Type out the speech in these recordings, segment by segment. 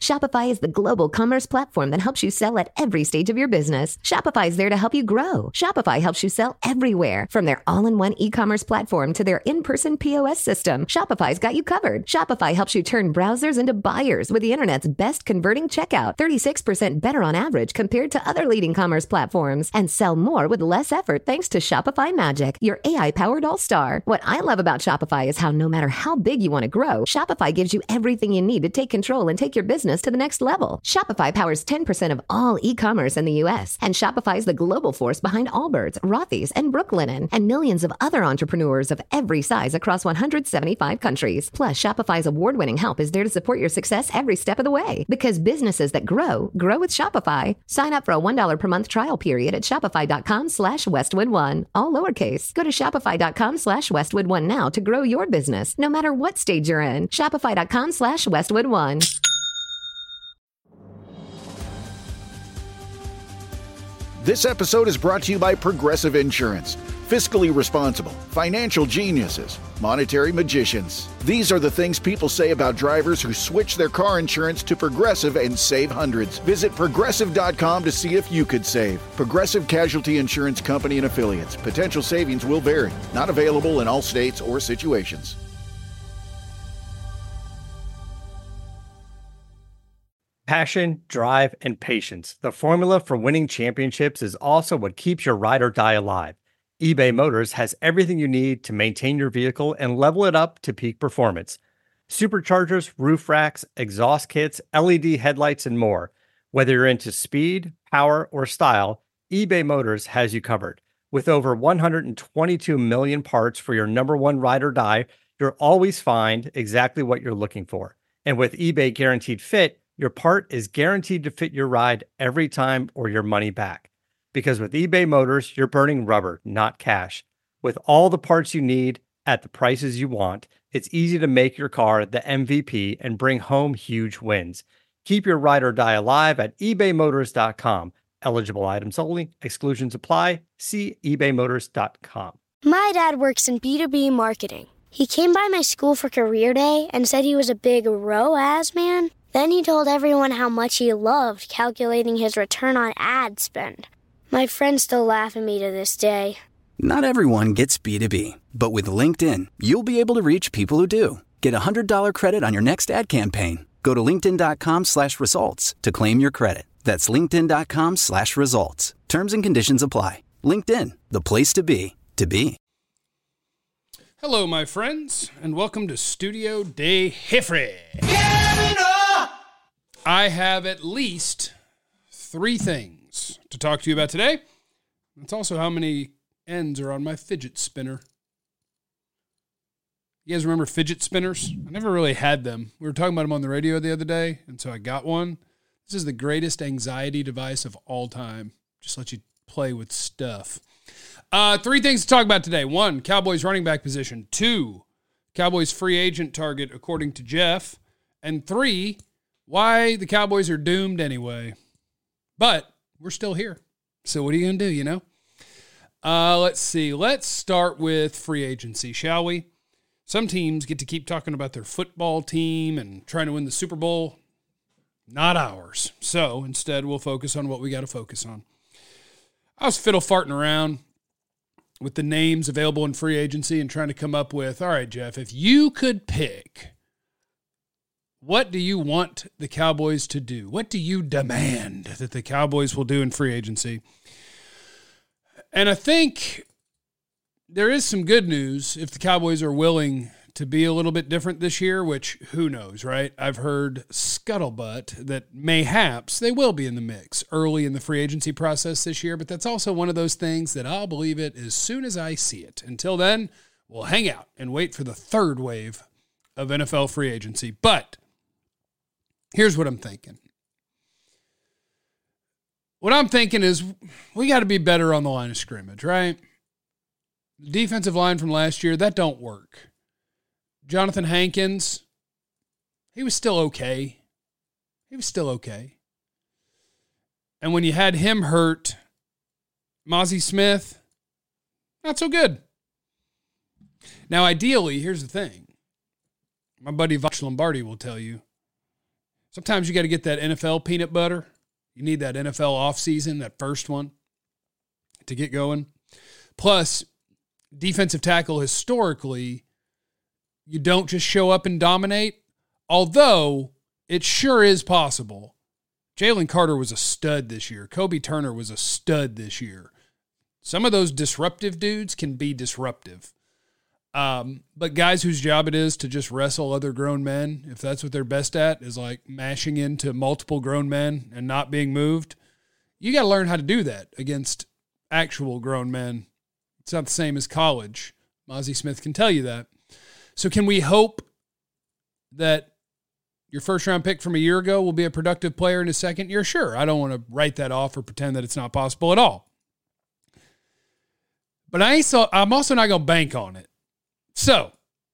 Shopify is the global commerce platform that helps you sell at every stage of your business. Shopify is there to help you grow. Shopify helps you sell everywhere, from their all-in-one e-commerce platform to their in-person POS system. Shopify's got you covered. Shopify helps you turn browsers into buyers with the internet's best converting checkout, 36% better on average compared to other leading commerce platforms, and sell more with less effort thanks to Shopify Magic, your AI-powered all-star. What I love about Shopify is how no matter how big you want to grow, Shopify gives you everything you need to take control and take your business to the next level. Shopify powers 10% of all e-commerce in the U.S., and Shopify is the global force behind Allbirds, Rothy's, and Brooklinen, and millions of other entrepreneurs of every size across 175 countries. Plus, Shopify's award-winning help is there to support your success every step of the way. Because businesses that grow with Shopify. Sign up for a $1 per month trial period at shopify.com/Westwood1, all lowercase. Go to shopify.com/Westwood1 now to grow your business, no matter what stage you're in. Shopify.com/Westwood1. This episode is brought to you by Progressive Insurance. Fiscally responsible, financial geniuses, monetary magicians. These are the things people say about drivers who switch their car insurance to Progressive and save hundreds. Visit Progressive.com to see if you could save. Progressive Casualty Insurance Company and Affiliates. Potential savings will vary. Not available in all states or situations. Passion, drive, and patience. The formula for winning championships is also what keeps your ride or die alive. eBay Motors has everything you need to maintain your vehicle and level it up to peak performance. Superchargers, roof racks, exhaust kits, LED headlights, and more. Whether you're into speed, power, or style, eBay Motors has you covered. With over 122 million parts for your number one ride or die, you'll always find exactly what you're looking for. And with eBay Guaranteed Fit, your part is guaranteed to fit your ride every time or your money back. Because with eBay Motors, you're burning rubber, not cash. With all the parts you need at the prices you want, it's easy to make your car the MVP and bring home huge wins. Keep your ride or die alive at ebaymotors.com. Eligible items only. Exclusions apply. See ebaymotors.com. My dad works in B2B marketing. He came by my school for career day and said he was a big ROAS man. Then he told everyone how much he loved calculating his return on ad spend. My friends still laugh at me to this day. Not everyone gets B2B, but with LinkedIn, you'll be able to reach people who do. Get a $100 credit on your next ad campaign. Go to linkedin.com/results to claim your credit. That's linkedin.com/results. Terms and conditions apply. LinkedIn, the place to be, to be. Hello, my friends, and welcome to Studio de Jeffrey. I have at least 3 things to talk to you about today. That's also how many ends are on my fidget spinner. You guys remember fidget spinners? I never really had them. We were talking about them on the radio the other day, and so I got one. This is the greatest anxiety device of all time. Just let you play with stuff. 3 things to talk about today. 1, Cowboys running back position. 2, Cowboys free agent target according to Jeff. And 3, why the Cowboys are doomed anyway. But we're still here. So what are you going to do, you know? Let's see. Let's start with free agency, shall we? Some teams get to keep talking about their football team and trying to win the Super Bowl. Not ours. So instead, we'll focus on what we got to focus on. I was fiddle farting around with the names available in free agency and trying to come up with, all right, Jeff, if you could pick, what do you want the Cowboys to do? What do you demand that the Cowboys will do in free agency? And I think there is some good news if the Cowboys are willing to be a little bit different this year, which who knows, right? I've heard scuttlebutt that mayhaps they will be in the mix early in the free agency process this year, but that's also one of those things that I'll believe it as soon as I see it. Until then, we'll hang out and wait for the third wave of NFL free agency. But here's what I'm thinking. What I'm thinking is we got to be better on the line of scrimmage, right? The defensive line from last year, that don't work. Jonathan Hankins, he was still okay. And when you had him hurt, Mozzie Smith, not so good. Now, ideally, here's the thing. My buddy Voch Lombardi will tell you, Sometimes you got to get that NFL peanut butter. You need that NFL offseason, that first one, to get going. Plus, defensive tackle historically, you don't just show up and dominate, although it sure is possible. Jalen Carter was a stud this year. Kobe Turner was a stud this year. Some of those disruptive dudes can be disruptive. But guys whose job it is to just wrestle other grown men, if that's what they're best at, is like mashing into multiple grown men and not being moved, you got to learn how to do that against actual grown men. It's not the same as college. Mozzie Smith can tell you that. So can we hope that your first-round pick from a year ago will be a productive player in his second year? Sure. I don't want to write that off or pretend that it's not possible at all. But I'm also not going to bank on it. So,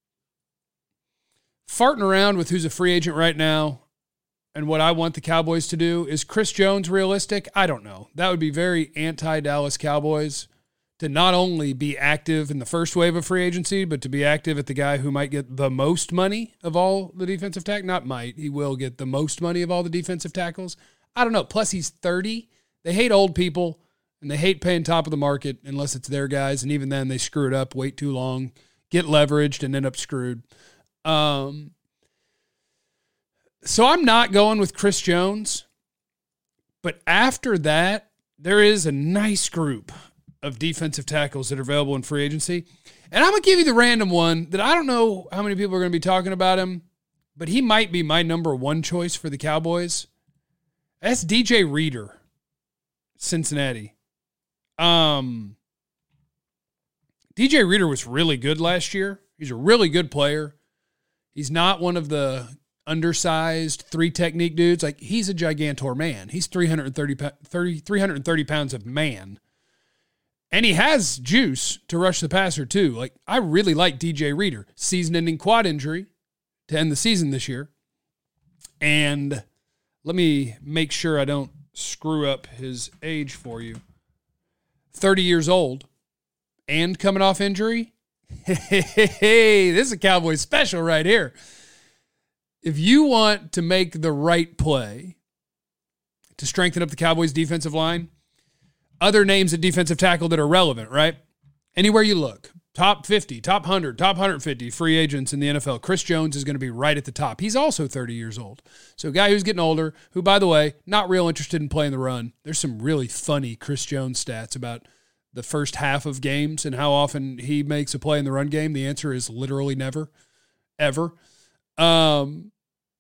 farting around with who's a free agent right now and what I want the Cowboys to do, is Chris Jones realistic? I don't know. That would be very anti-Dallas Cowboys to not only be active in the first wave of free agency, but to be active at the guy who might get the most money of all the defensive tackles. Not might, he will get the most money of all the defensive tackles. I don't know. Plus, he's 30. They hate old people, and they hate paying top of the market unless it's their guys, and even then they screw it up, wait too long, get leveraged, and end up screwed. So I'm not going with Chris Jones. But after that, there is a nice group of defensive tackles that are available in free agency. And I'm going to give you the random one that I don't know how many people are going to be talking about him, but he might be my number one choice for the Cowboys. That's DJ Reader, Cincinnati. DJ Reader was really good last year. He's a really good player. He's not one of the undersized three technique dudes. Like, he's a gigantor man. He's 330 pounds of man. And he has juice to rush the passer too. Like, I really like DJ Reader. Season-ending quad injury to end the season this year. And let me make sure I don't screw up his age for you. 30 years old and coming off injury. Hey, this is a Cowboys special right here. If you want to make the right play to strengthen up the Cowboys defensive line, other names at defensive tackle that are relevant, right? Anywhere you look, top 50, top 100, top 150 free agents in the NFL, Chris Jones is going to be right at the top. He's also 30 years old. So a guy who's getting older, who, by the way, not real interested in playing the run. There's some really funny Chris Jones stats about the first half of games and how often he makes a play in the run game. The answer is literally never, ever. That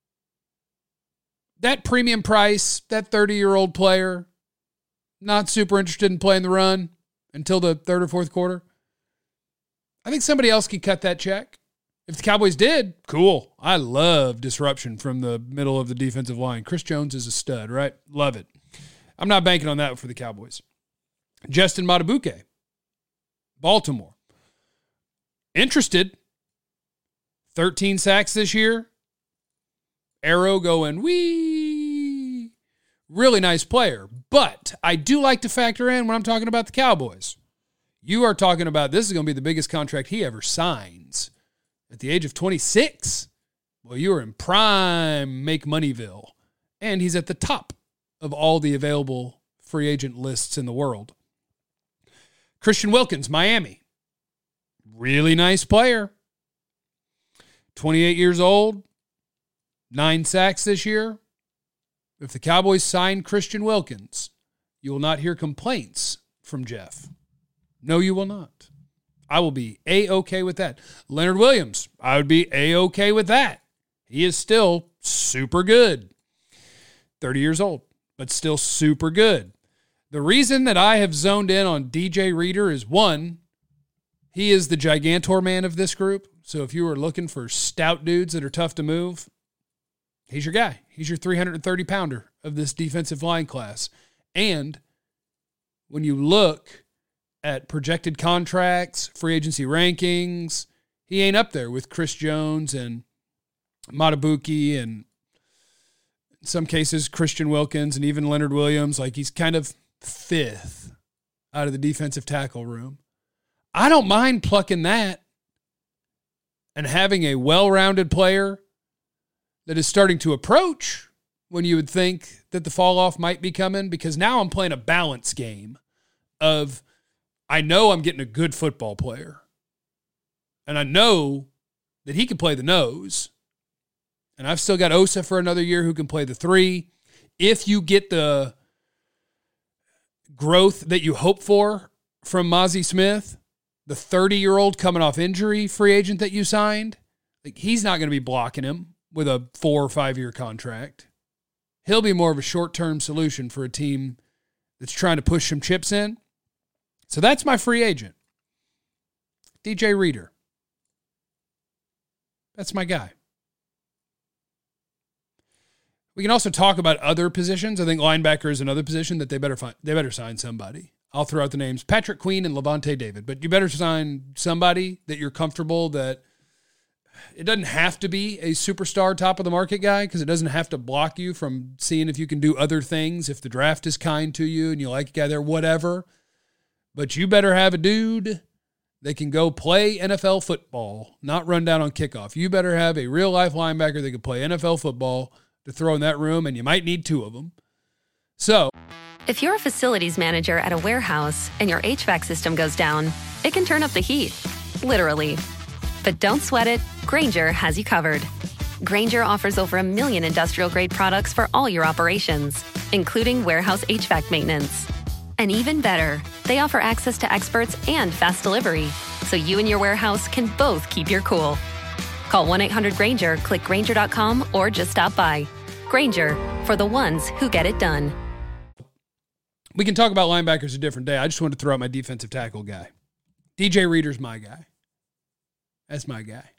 premium price, that 30-year-old player, not super interested in playing the run until the third or fourth quarter. I think somebody else could cut that check. If the Cowboys did, cool. I love disruption from the middle of the defensive line. Chris Jones is a stud, right? Love it. I'm not banking on that for the Cowboys. Justin Matabuke, Baltimore. Interested. 13 sacks this year. Arrow going, wee. Really nice player. But I do like to factor in when I'm talking about the Cowboys. You are talking about this is going to be the biggest contract he ever signs. At the age of 26, well, you are in prime make moneyville. And he's at the top of all the available free agent lists in the world. Christian Wilkins, Miami. Really nice player. 28 years old. 9 sacks this year. If the Cowboys sign Christian Wilkins, you will not hear complaints from Jeff. No, you will not. I will be A-okay with that. Leonard Williams, I would be A-okay with that. He is still super good. 30 years old, but still super good. The reason that I have zoned in on DJ Reader is, one, he is the gigantor man of this group. So if you are looking for stout dudes that are tough to move, he's your guy. He's your 330-pounder of this defensive line class. And when you look at projected contracts, free agency rankings, he ain't up there with Chris Jones and Matabuke and, in some cases, Christian Wilkins and even Leonard Williams. Like, he's kind of fifth out of the defensive tackle room. I don't mind plucking that and having a well-rounded player that is starting to approach when you would think that the fall off might be coming, because now I'm playing a balance game of, I know I'm getting a good football player, and I know that he can play the nose, and I've still got Osa for another year who can play the 3. If you get the growth that you hope for from Mazi Smith, the 30-year-old coming off injury free agent that you signed, like, he's not going to be blocking him with a 4 or 5 year contract. He'll be more of a short-term solution for a team that's trying to push some chips in. So that's my free agent. DJ Reader. That's my guy. We can also talk about other positions. I think linebacker is another position that they better sign somebody. I'll throw out the names Patrick Queen and Levante David, but you better sign somebody that you're comfortable that it doesn't have to be a superstar top of the market guy, because it doesn't have to block you from seeing if you can do other things, if the draft is kind to you and you like a guy there, whatever. But you better have a dude that can go play NFL football, not run down on kickoff. You better have a real-life linebacker that can play NFL football to throw in that room, and you might need 2 of them. So, if you're a facilities manager at a warehouse and your HVAC system goes down, it can turn up the heat, literally. But don't sweat it. Grainger has you covered. Grainger offers over 1 million industrial-grade products for all your operations, including warehouse HVAC maintenance. And even better, they offer access to experts and fast delivery, so you and your warehouse can both keep your cool. Call 1-800-GRAINGER, click Grainger.com, or just stop by. Grainger, for the ones who get it done. We can talk about linebackers a different day. I just wanted to throw out my defensive tackle guy. DJ Reader's my guy. That's my guy.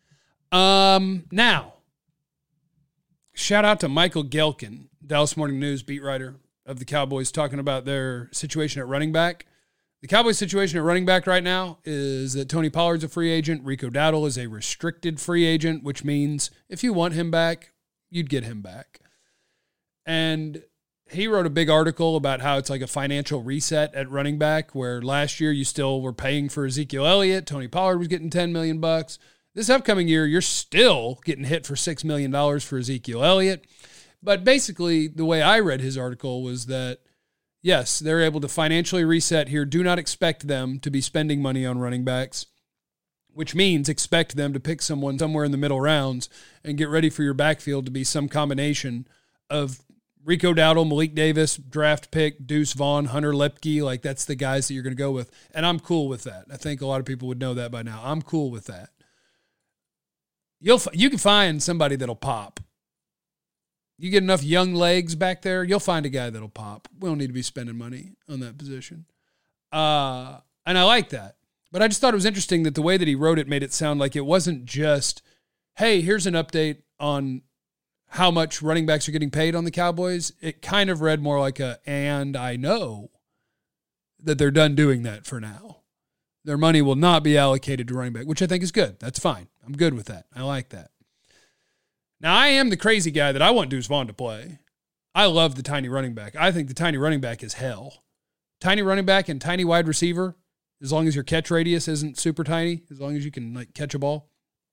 Now, shout out to Michael Gelkin, Dallas Morning News beat writer of the Cowboys, talking about their situation at running back. The Cowboys' situation at running back right now is that Tony Pollard's a free agent. Rico Dowdle is a restricted free agent, which means if you want him back, you'd get him back. And he wrote a big article about how it's like a financial reset at running back, where last year you still were paying for Ezekiel Elliott. Tony Pollard was getting $10 million. This upcoming year, you're still getting hit for $6 million for Ezekiel Elliott. But basically, the way I read his article was that, yes, they're able to financially reset here. Do not expect them to be spending money on running backs, which means expect them to pick someone somewhere in the middle rounds and get ready for your backfield to be some combination of Rico Dowdle, Malik Davis, draft pick, Deuce Vaughn, Hunter Lepke. Like, that's the guys that you're going to go with. And I'm cool with that. I think a lot of people would know that by now. I'm cool with that. You can find somebody that'll pop. You get enough young legs back there, you'll find a guy that'll pop. We don't need to be spending money on that position. And I like that. But I just thought it was interesting that the way that he wrote it made it sound like it wasn't just, hey, here's an update on how much running backs are getting paid on the Cowboys. It kind of read more like and I know that they're done doing that for now. Their money will not be allocated to running back, which I think is good. That's fine. I'm good with that. I like that. Now, I am the crazy guy that I want Deuce Vaughn to play. I love the tiny running back. I think the tiny running back is hell. Tiny running back and tiny wide receiver, as long as your catch radius isn't super tiny, as long as you can like catch a ball.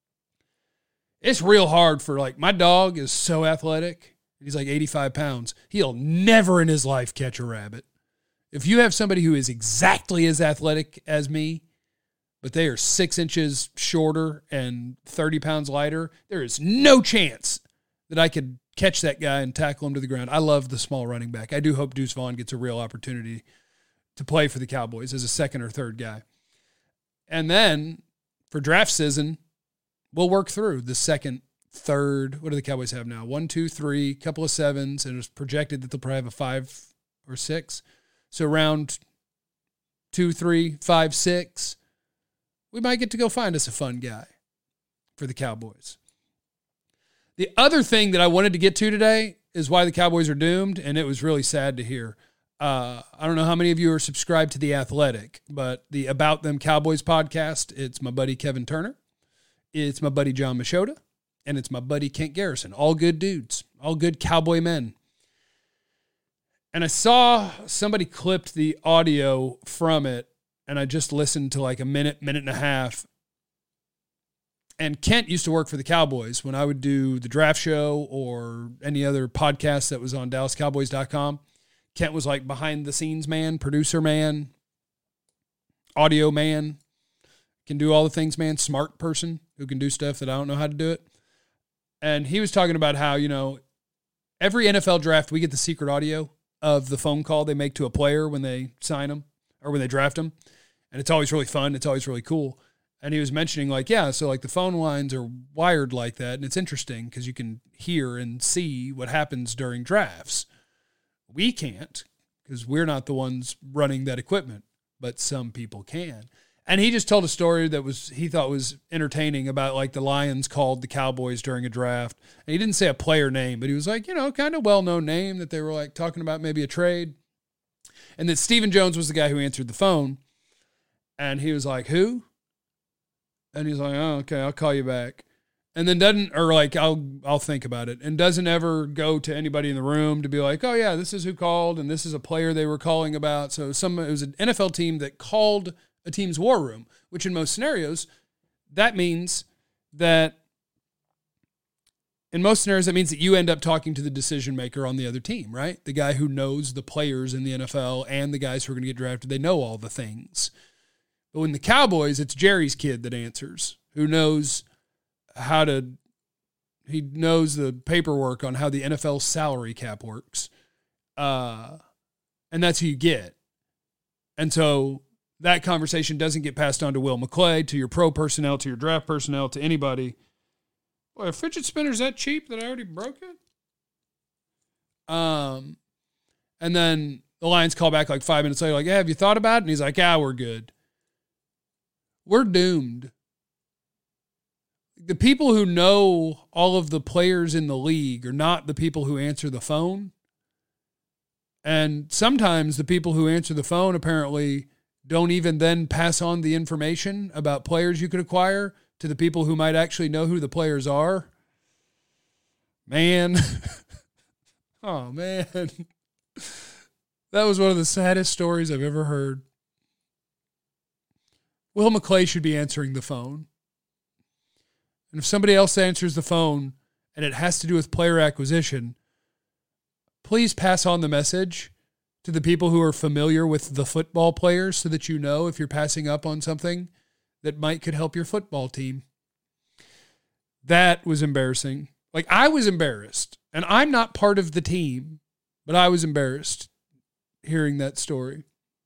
It's real hard for, like, my dog is so athletic. He's like 85 pounds. He'll never in his life catch a rabbit. If you have somebody who is exactly as athletic as me, but they are 6 inches shorter and 30 pounds lighter, there is no chance that I could catch that guy and tackle him to the ground. I love the small running back. I do hope Deuce Vaughn gets a real opportunity to play for the Cowboys as a second or third guy. And then for draft season, we'll work through the second, third. What do the Cowboys have now? 1, 2, 3, couple of 7s, and it's projected that they'll probably have a 5 or 6. So round 2, 3, 5, 6, we might get to go find us a fun guy for the Cowboys. The other thing that I wanted to get to today is why the Cowboys are doomed, and it was really sad to hear. I don't know how many of you are subscribed to The Athletic, but the About Them Cowboys podcast, it's my buddy Kevin Turner, it's my buddy John Machota, and it's my buddy Kent Garrison. All good dudes, all good Cowboy men. And I saw somebody clipped the audio from it, and I just listened to like a minute and a half. And Kent used to work for the Cowboys when I would do the draft show or any other podcast that was on DallasCowboys.com. Kent was like behind the scenes man, producer man, audio man, can do all the things, man, smart person who can do stuff that I don't know how to do it. And he was talking about how, every NFL draft, we get the secret audio of the phone call they make to a player when they sign them or when they draft them. And it's always really fun. It's always really cool. And he was mentioning so the phone lines are wired like that. And it's interesting because you can hear and see what happens during drafts. We can't because we're not the ones running that equipment, but some people can. And he just told a story that he thought was entertaining about like the Lions called the Cowboys during a draft. And he didn't say a player name, but he was like, kind of well-known name that they were like talking about maybe a trade. And that Stephen Jones was the guy who answered the phone. And he was like, who? And he's like, oh, okay, I'll call you back. And then I'll think about it. And doesn't ever go to anybody in the room to be like, oh yeah, this is who called and this is a player they were calling about. So it was an NFL team that called a team's war room, which in most scenarios, that means that you end up talking to the decision maker on the other team, right? The guy who knows the players in the NFL and the guys who are going to get drafted, they know all the things. But when the Cowboys, it's Jerry's kid that answers, who knows he knows the paperwork on how the NFL salary cap works. And that's who you get. And so that conversation doesn't get passed on to Will McClay, to your pro personnel, to your draft personnel, to anybody. Boy, a fidget spinner's that cheap that I already broke it? And then the Lions call back like 5 minutes later, like, have you thought about it? And he's like, we're good. We're doomed. The people who know all of the players in the league are not the people who answer the phone. And sometimes the people who answer the phone apparently don't even then pass on the information about players you could acquire to the people who might actually know who the players are. Man. Oh, man. That was one of the saddest stories I've ever heard. Will McClay should be answering the phone. And if somebody else answers the phone and it has to do with player acquisition, please pass on the message to the people who are familiar with the football players so that you know if you're passing up on something that could help your football team. That was embarrassing. Like, I was embarrassed. And I'm not part of the team, but I was embarrassed hearing that story.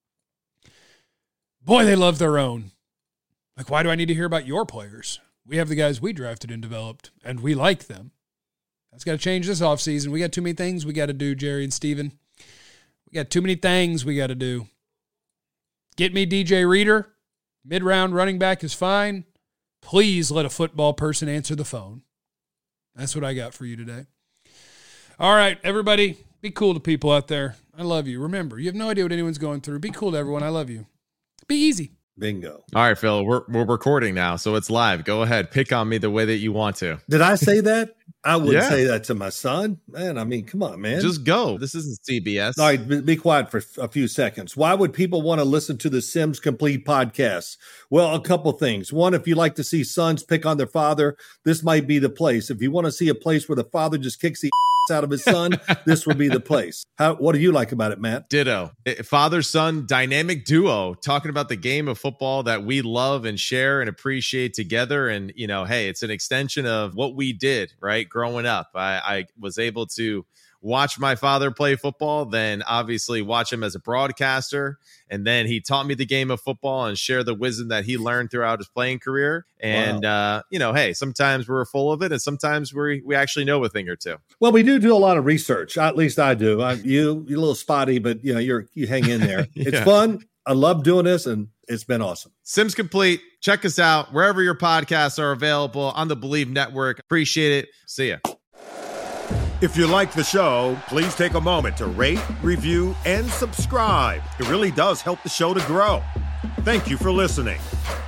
Boy, they love their own. Like, why do I need to hear about your players? We have the guys we drafted and developed, and we like them. That's got to change this offseason. We got too many things we got to do, Jerry and Steven. We got too many things we got to do. Get me DJ Reader. Mid-round running back is fine. Please let a football person answer the phone. That's what I got for you today. All right, everybody, be cool to people out there. I love you. Remember, you have no idea what anyone's going through. Be cool to everyone. I love you. Be easy. Bingo. All right, Phil, we're recording now, so it's live. Go ahead. Pick on me the way that you want to. Did I say that? I wouldn't say that to my son. Man, I mean, come on, man. Just go. This isn't CBS. All right, be quiet for a few seconds. Why would people want to listen to the Sims Complete podcast? Well, a couple things. One, if you like to see sons pick on their father, this might be the place. If you want to see a place where the father just kicks the out of his son, this would be the place. What do you like about it, Matt? Ditto. Father-son dynamic duo talking about the game of football that we love and share and appreciate together. And, hey, it's an extension of what we did, right? Growing up, I was able to watch my father play football, then obviously watch him as a broadcaster. And then he taught me the game of football and share the wisdom that he learned throughout his playing career. And, hey, sometimes we're full of it and sometimes we actually know a thing or two. Well, we do a lot of research. At least I do. You're a little spotty, but you hang in there. It's fun. I love doing this and it's been awesome. Sims Complete. Check us out wherever your podcasts are available on the Believe Network. Appreciate it. See ya. If you like the show, please take a moment to rate, review, and subscribe. It really does help the show to grow. Thank you for listening.